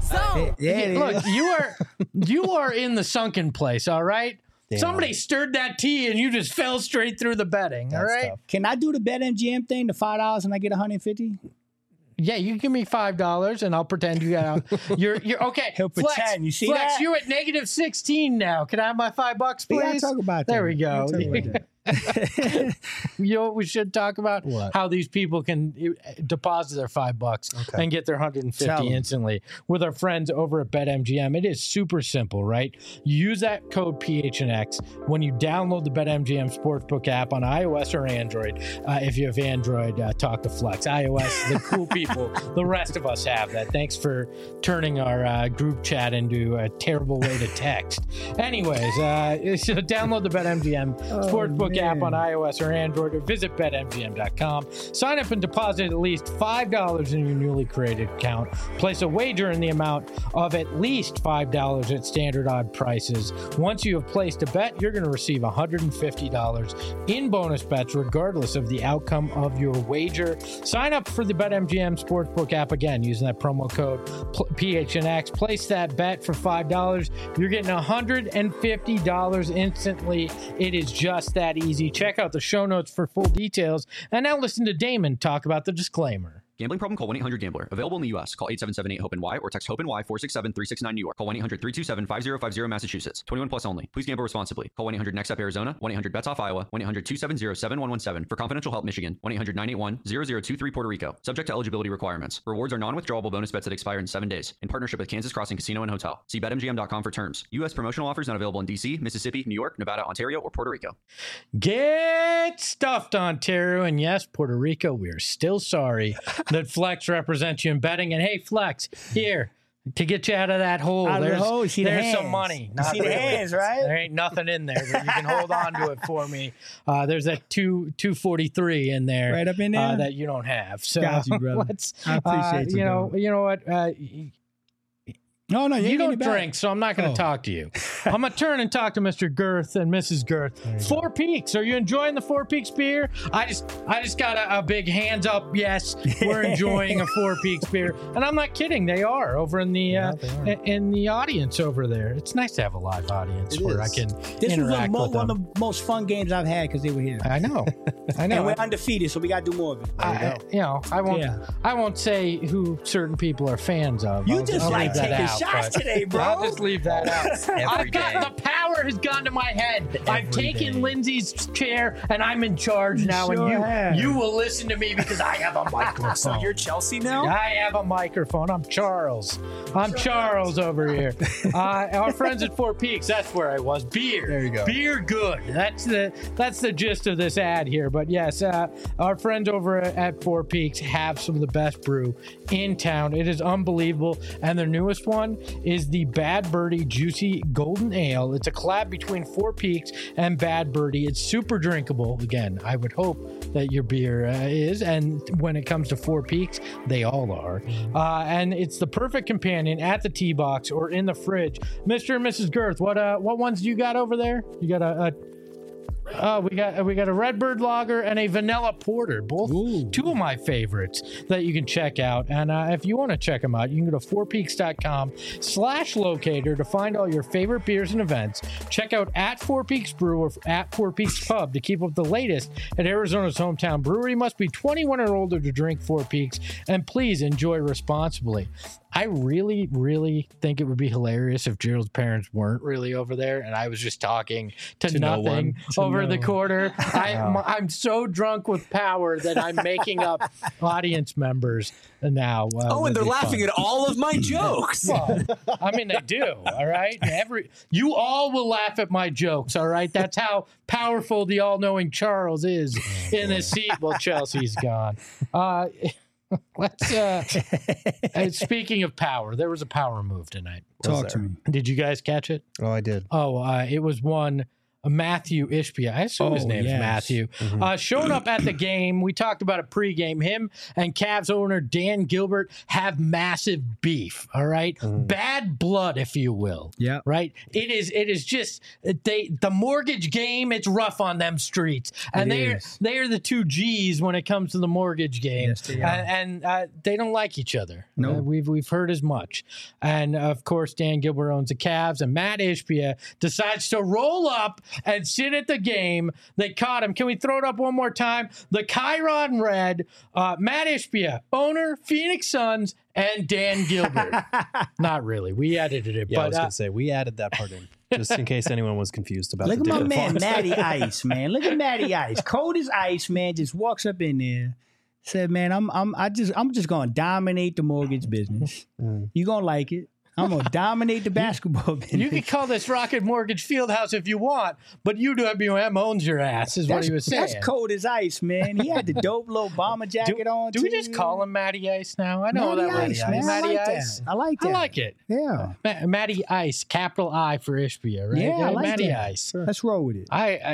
Look, you are in the sunken place, all right? Damn. Somebody stirred that tea and you just fell straight through the betting, all right? Tough. Can I do the BetMGM thing, the $5 and I get $150? Yeah, you give me $5 and I'll pretend you got you're okay. He'll Flex, pretend. You see Flex, that? you're at negative 16 now. Can I have my $5, please? We gotta talk about that. There we go. We'll talk about that. You know what we should talk about? What? How these people can deposit their $5 and get their 150 instantly with our friends over at BetMGM. It is super simple, right? You use that code PHNX when you download the BetMGM Sportsbook app on iOS or Android. If you have Android, talk to Flex. iOS, the cool people, the rest of us have that. Thanks for turning our group chat into a terrible way to text. Anyways, so download the BetMGM Sportsbook app on iOS or Android, or visit BetMGM.com. Sign up and deposit at least $5 in your newly created account. Place a wager in the amount of at least $5 at standard odd prices. Once you have placed a bet, you're going to receive $150 in bonus bets, regardless of the outcome of your wager. Sign up for the BetMGM Sportsbook app again using that promo code PHNX. Place that bet for $5. You're getting $150 instantly. It is just that easy. Check out the show notes for full details. And now listen to Damon talk about the disclaimer. Gambling problem? Call 1-800-GAMBLER. Available in the U.S. Call 877-8-HOPE-NY or text HOPE-NY 467-369 New York. Call 1-800-327-5050 Massachusetts. 21 plus only. Please gamble responsibly. Call 1-800-NEXT-UP Arizona. 1-800-BETS-OFF Iowa. 1-800-270-7117. For confidential help, Michigan. 1-800-981-0023 Puerto Rico. Subject to eligibility requirements. Rewards are non-withdrawable bonus bets that expire in 7 days. In partnership with Kansas Crossing Casino and Hotel. See BetMGM.com for terms. U.S. promotional offers not available in D.C., Mississippi, New York, Nevada, Ontario, or Puerto Rico. Get stuffed, Ontario. And yes, Puerto Rico, we are still sorry that Flex represents you in betting. And hey, Flex, here to get you out of that hole. There's some money. You see the hands, right? There ain't nothing in there, but you can hold on to it for me. There's that 243 in there, right up in there that you don't have. So got you, brother. I appreciate you. You know what? No, you don't drink, so I'm not going to talk to you. I'm going to turn and talk to Mr. Girth and Mrs. Girth. Four Peaks. Are you enjoying the Four Peaks beer? I just got a big hands up. Yes, we're enjoying a Four Peaks beer. And I'm not kidding. They are over in the in the audience over there. It's nice to have a live audience where I can interact with them. One of the most fun games I've had because they were here. I know. And we're undefeated, so we got to do more of it. I won't say who certain people are fans of. You just like taking shots today, bro. I'll just leave that out. The power has gone to my head. I've taken Lindsay's chair and I'm in charge now, and you will listen to me because I have a microphone. So you're Chelsea now? I have a microphone. I'm Charles. I'm Charles over here. Our friends at Four Peaks. That's where I was. Beer. There you go. Beer good. That's the gist of this ad here. But yes, our friends over at Four Peaks have some of the best brew in town. It is unbelievable. And their newest one is the Bad Birdie Juicy Golden Ale. It's a collab between Four Peaks and Bad Birdie. It's super drinkable. Again, I would hope that your beer is. And when it comes to Four Peaks, they all are. And it's the perfect companion at the tee box or in the fridge. Mr. and Mrs. Girth, what ones do you got over there? You got we got a Redbird Lager and a Vanilla Porter, both two of my favorites that you can check out. And if you want to check them out, you can go to fourpeaks.com/locator to find all your favorite beers and events. Check out at Four Peaks Brew or at Four Peaks Pub to keep up the latest at Arizona's hometown brewery. Must be 21 or older to drink Four Peaks, and please enjoy responsibly. I really, really think it would be hilarious if Gerald's parents weren't really over there and I was just talking to nothing over the quarter. I'm so drunk with power that I'm making up audience members now. And they're laughing at all of my jokes. Well, I mean, they do, all right? You all will laugh at my jokes, all right? That's how powerful the all-knowing Charles is in his seat while Chelsea's gone. Let's speaking of power, there was a power move tonight. Talk to me. Did you guys catch it? Oh, I did. It was one Matthew Ishbia. I assume his name's Matthew. Showed up at the game. We talked about it pregame. Him and Cavs owner Dan Gilbert have massive beef. All right, bad blood, if you will. Yeah. Right. It is just the mortgage game. It's rough on them streets, and they are the two G's when it comes to the mortgage game. Yes, they are. And they don't like each other. No, we've heard as much. And of course, Dan Gilbert owns the Cavs, and Matt Ishbia decides to roll up and sit at the game. They caught him. Can we throw it up one more time? The Chiron Red, Matt Ishbia, owner, Phoenix Suns, and Dan Gilbert. Not really. We edited it. Yeah, but, I was going to say, we added that part in, just in case anyone was confused about Look the at my man, Fonts. Matty Ice, man. Look at Matty Ice. Cold as ice, man, just walks up in there. Said, man, I'm just going to dominate the mortgage business. You going to like it. I'm going to dominate the basketball business. You can call this Rocket Mortgage Fieldhouse if you want, but UWM owns your ass, is what he was saying. That's cold as ice, man. He had the dope little bomber jacket on. Do we just call him Matty Ice now? I know Matty that Ice, man. Matty I like Ice. that. I like that. I like it. Yeah. Matty Ice, capital I for Ishbia, right? Yeah, I like Matty that. Ice. Let's roll with it.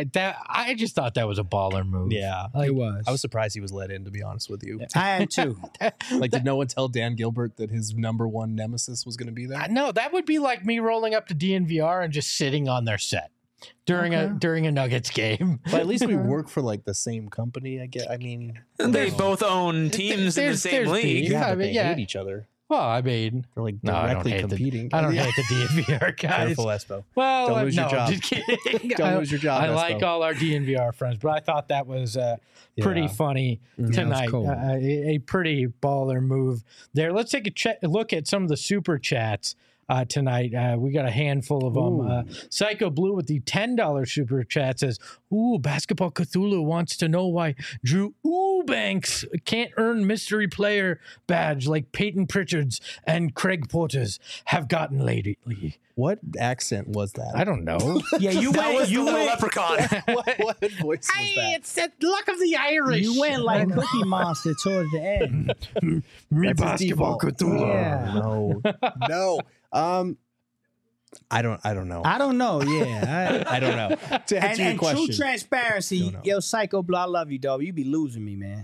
I just thought that was a baller move. Yeah. It was. I was surprised he was let in, to be honest with you. I am too. Did no one tell Dan Gilbert that his number one nemesis was going to be there? No, that would be like me rolling up to DNVR and just sitting on their set during a Nuggets game. But at least we work for the same company. I mean, they both own teams in the same league. Yeah, but they hate each other. Well, I mean, they're directly competing. I don't hate the DNVR guys. Careful, Espo. Well, don't lose your job. Just kidding. Don't lose your job. I Espo. like all our DNVR friends, but I thought that was pretty funny tonight. Cool. A pretty baller move there. Let's take a look at some of the super chats. Tonight. We got a handful of them. Psycho Blue with the $10 super chat says, Basketball Cthulhu wants to know why Drew Eubanks can't earn mystery player badge like Peyton Pritchard's and Craig Porter's have gotten lately. What accent was that? I don't know. Yeah, you went. You went leprechaun. what voice was that? It's the luck of the Irish. You went like Cookie Monster towards the end. Me Basketball Cthulhu. Yeah. No. I don't know. I don't know. Yeah, I don't know. To answer your question, true transparency, yo, Psycho Blue, I love you, dog. You be losing me, man.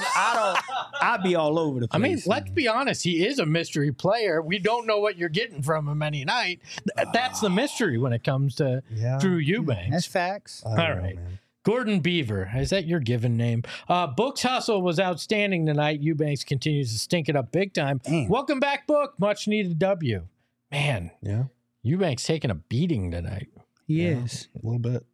I'll be all over the place. I mean, let's be honest. He is a mystery player. We don't know what you're getting from him any night. That's the mystery when it comes to Drew Eubanks. That's facts. All right. Gordon Beaver, is that your given name? Book's hustle was outstanding tonight. Eubanks continues to stink it up big time. Damn. Welcome back, Book. Much needed W. Man, yeah, Eubanks taking a beating tonight. He is. A little bit.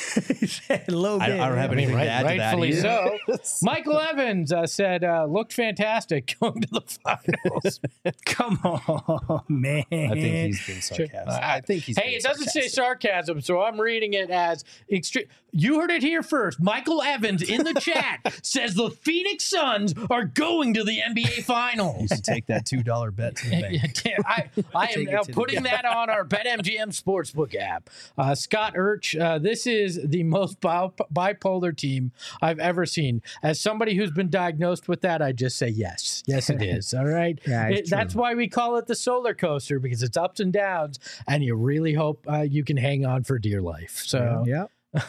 A little bit. I don't have anything to add to that. Rightfully either. so. Michael Evans said, looked fantastic going to the finals. Come on, man. I think he's been sarcastic. I think he's. Hey, it doesn't say sarcasm, so I'm reading it as extreme. You heard it here first. Michael Evans in the chat says the Phoenix Suns are going to the NBA Finals. You should take that $2 bet to the bank. I am now putting that on our BetMGM Sportsbook app. Scott Urch, this is the most bipolar team I've ever seen. As somebody who's been diagnosed with that, I just say yes. Yes, it is. All right. That's why we call it the solar coaster, because it's ups and downs, and you really hope you can hang on for dear life. So, yeah.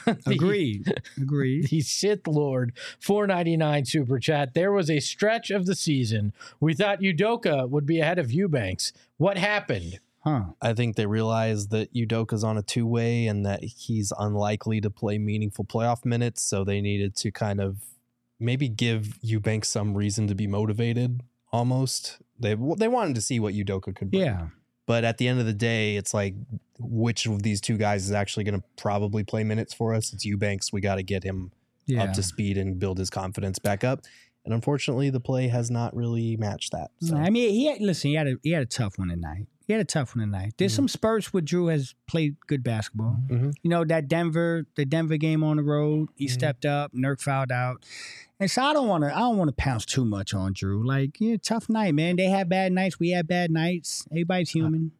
Agreed. The Sith Lord $4.99 super chat. There was a stretch of the season we thought Udoka would be ahead of Eubanks. What happened? I think they realized that Udoka's on a two-way and that he's unlikely to play meaningful playoff minutes, so they needed to kind of maybe give Eubanks some reason to be motivated. Almost, they wanted to see what Udoka could bring. Yeah. But at the end of the day, it's like, which of these two guys is actually going to probably play minutes for us? It's Eubanks. We got to get him up to speed and build his confidence back up. And unfortunately, the play has not really matched that. So. I mean, he had a tough one tonight. There's some spurts where Drew has played good basketball. Mm-hmm. You know, the Denver game on the road, he stepped up, Nurk fouled out. And so I don't want to pounce too much on Drew. Like, tough night, man. They have bad nights. We have bad nights. Everybody's human.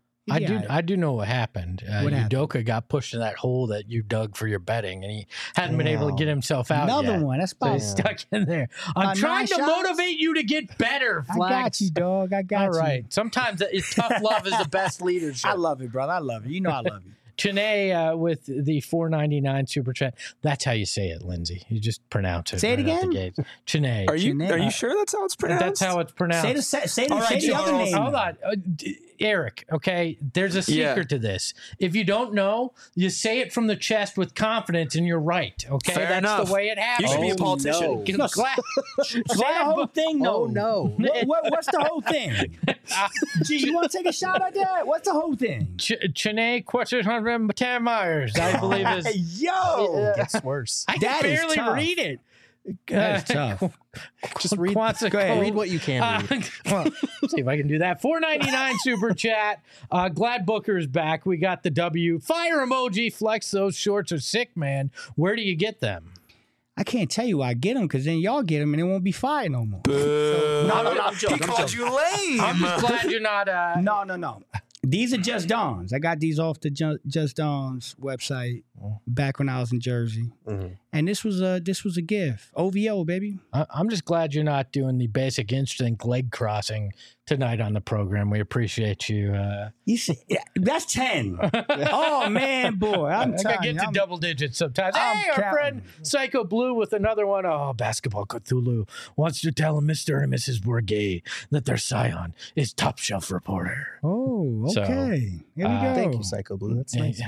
I do know what happened. Udoka got pushed in that hole that you dug for your betting, and he hadn't been able to get himself out Another yet. one. That's probably stuck in there. I'm trying to motivate you to get better, Flex. I got you, dog. I got you. All right. Sometimes tough love is the best leadership. I love it, brother. I love it. You know I love you. Chene with the $4.99 super chat. That's how you say it, Lindsay. You just pronounce it. Say it again. Chene. Are you sure that's how it's pronounced? That's how it's pronounced. Say the other name. Hold on. Eric, okay, there's a secret to this. If you don't know, you say it from the chest with confidence and you're right, okay? That's enough. The way it happens. You should be a politician. No. Say the whole thing, though. Oh, no. What's the whole thing? Gee, you want to take a shot at that? What's the whole thing? Chene Quattro Myers, I believe is. Yo! It gets worse. I can barely read it. That's tough. Just read. Go ahead. Read what you can read. Let's see if I can do that. $4.99 super chat. Glad Booker's back. We got the W. Fire emoji. Flex. Those shorts are sick, man. Where do you get them? I can't tell you where I get them because then y'all get them and it won't be fire no more. No, I'm joking. He called you lame. I'm just glad you're not. No. These are Just Dons. I got these off the Just Dons website back when I was in Jersey. Mm-hmm. And this was a gift. OVO, baby. I'm just glad you're not doing the basic instinct leg crossing tonight on the program. We appreciate you. You see, that's 10. Oh, man, boy. I get to double digits sometimes. Hey, our friend Psycho Blue with another one. Oh, Basketball Cthulhu wants to tell Mr. and Mrs. Bourget that their scion is top shelf reporter. Oh, okay. So, here we go. Thank you, Psycho Blue. That's nice.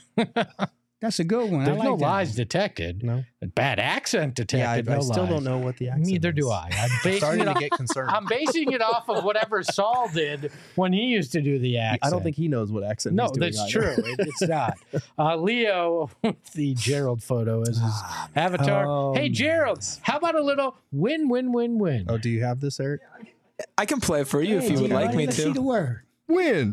That's a good one. There's I like no that. lies detected. No. Bad accent detected. Yeah, I no still lies. don't know what the accent Neither is. do I. I'm starting to get concerned. I'm basing it off of whatever Saul did when he used to do the accent. I don't think he knows what accent he's doing. No, that's true. It's not. Leo with the Gerald photo as his avatar. Oh, hey, Gerald, how about a little win? Oh, do you have this, Eric? I can play for you if you would like me Let's see to. the word. Win.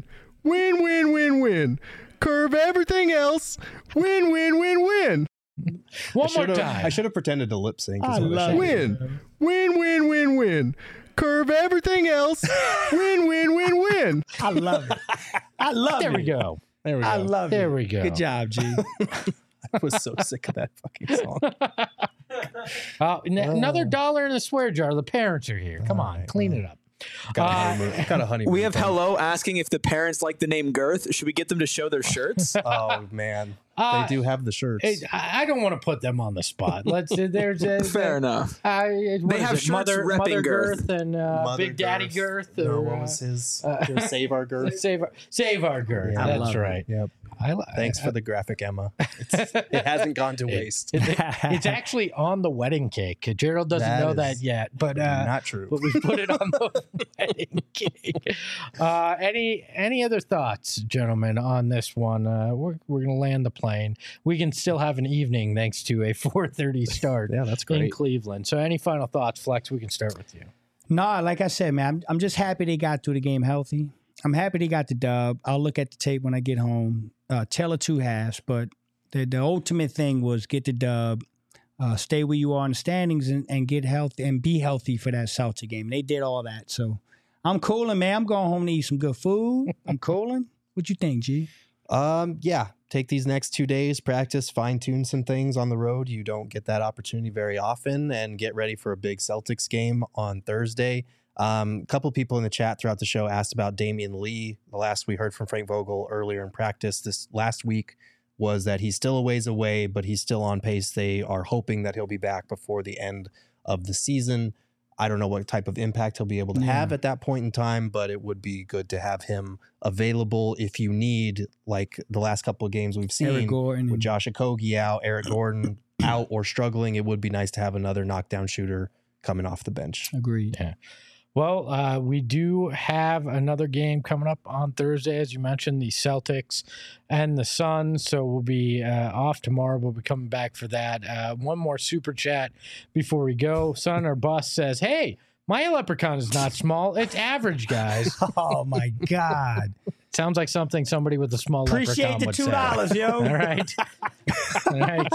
Curve everything else. Win. One more time. I should have pretended to lip sync. I love it. Win. Curve everything else. Win. I love it. I love there it. we go. I love it. There we go. Good job, G. I was so sick of that fucking song. Another $1 in the swear jar. The parents are here. Come on, clean it up. Got a honeymoon. We have thing. Hello asking if the parents like the name Girth. Should we get them to show their shirts? Oh man, they do have the shirts. I don't want to put them on the spot. There's Fair enough. They have shirts Mother repping Girth Girth. and Mother Big Daddy Girth. Girth. No, what was his? Save Our Girth. Save Our Girth. Yeah. That's right. Yep. Thanks for the graphic, Emma. It hasn't gone to waste. It's actually on the wedding cake. Gerald doesn't know that yet, but not true. But we put it on the wedding cake. Any other thoughts, gentlemen, on this one? We're gonna land the plane. We can still have an evening thanks to a 4:30 start. Yeah, that's great. In Cleveland. So, any final thoughts, Flex? We can start with you. No, like I said, man, I'm just happy they got through the game healthy. I'm happy they got the dub. I'll look at the tape when I get home. Tell of two halves, but the ultimate thing was get the dub, stay where you are in the standings, and get healthy and be healthy for that Celtic game. They did all that, so I'm cooling, man. I'm going home to eat some good food. I'm cooling. What you think, G? Yeah. Take these next 2 days, practice, fine tune some things on the road. You don't get that opportunity very often, and get ready for a big Celtics game on Thursday. A couple people in the chat throughout the show asked about Damian Lee. The last we heard from Frank Vogel earlier in practice this last week was that he's still a ways away, but he's still on pace. They are hoping that he'll be back before the end of the season. I don't know what type of impact he'll be able to have at that point in time, but it would be good to have him available if you need, like the last couple of games we've seen Eric Gordon with Josh Okogie out, Eric Gordon out or struggling. It would be nice to have another knockdown shooter coming off the bench. Agreed. Yeah. Well, we do have another game coming up on Thursday, as you mentioned, the Celtics and the Suns. So we'll be off tomorrow. We'll be coming back for that. One more super chat before we go. Son or Bus says, "Hey, my leprechaun is not small. It's average, guys." Oh my God. Sounds like something somebody with a small Appreciate leprechaun the would say. $2, yo. All right. All right.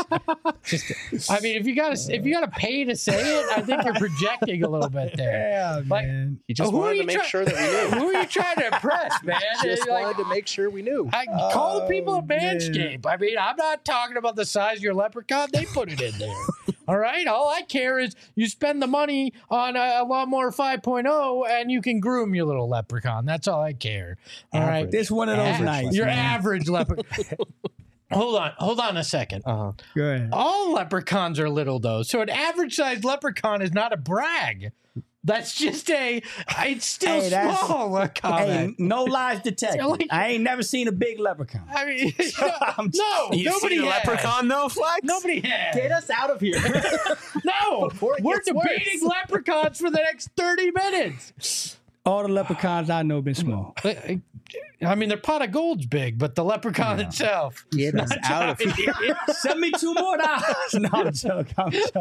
I mean, if you gotta pay to say it, I think you're projecting a little bit there. Yeah, Like, man. He just who wanted are to you make sure that we knew. Who are you trying to impress, man? Just Like, wanted to make sure we knew. call the people at man. Manscaped. I mean, I'm not talking about the size of your leprechaun. They put it in there. All right. All I care is you spend the money on a Lawnmower 5.0 and you can groom your little leprechaun. That's all I care. All right. This one of those Average. nights. Your man. average leprechaun. Hold on a second. Uh-huh. Go ahead. All leprechauns are little, though. So an average sized leprechaun is not a brag. That's just it's still Hey, that's- small. A Hey, comment. no lies detected. Like- I ain't never seen a big leprechaun. I mean, I'm no, You nobody seen a has. leprechaun though, Flex? Nobody has. Get us out of here. No, Before it we're gets debating leprechauns for the next 30 minutes. All the leprechauns I know been small. I mean, their pot of gold's big, but the leprechaun itself. Get us out of here. Send me $2 more. No, I'm joking.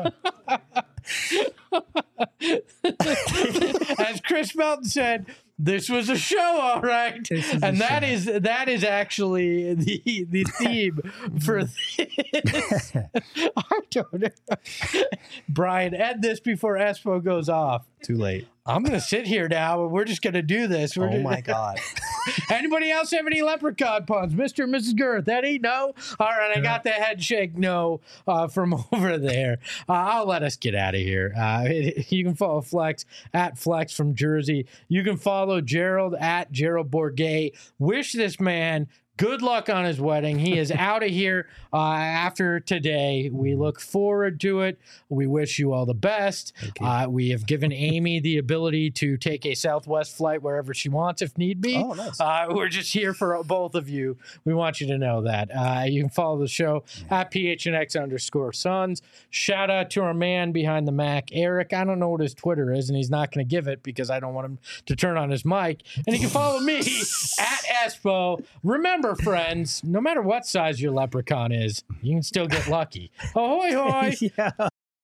As Chris Melton said, this was a show, all right. And that is actually the theme for this. I don't know. Brian, end this before Espo goes off. Too late. I'm going to sit here now and we're just going to do this. Oh my God. Anybody else have any leprechaun puns? Mr. and Mrs. Girth, Eddie? No? All right, I got the head shake no from over there. I'll let us get out of here. You can follow Flex at Flex from Jersey. You can follow Gerald at Gerald Bourget. Wish this man good luck on his wedding. He is out of here after today. We look forward to it. We wish you all the best. We have given Amy the ability to take a Southwest flight wherever she wants if need be. Oh, nice. We're just here for both of you. We want you to know that. You can follow the show at PHNX_Suns. Shout out to our man behind the Mac, Eric. I don't know what his Twitter is, and he's not going to give it because I don't want him to turn on his mic. And you can follow me at Espo. Remember, friends, no matter what size your leprechaun is, you can still get lucky. Ahoy, hoy! Yeah.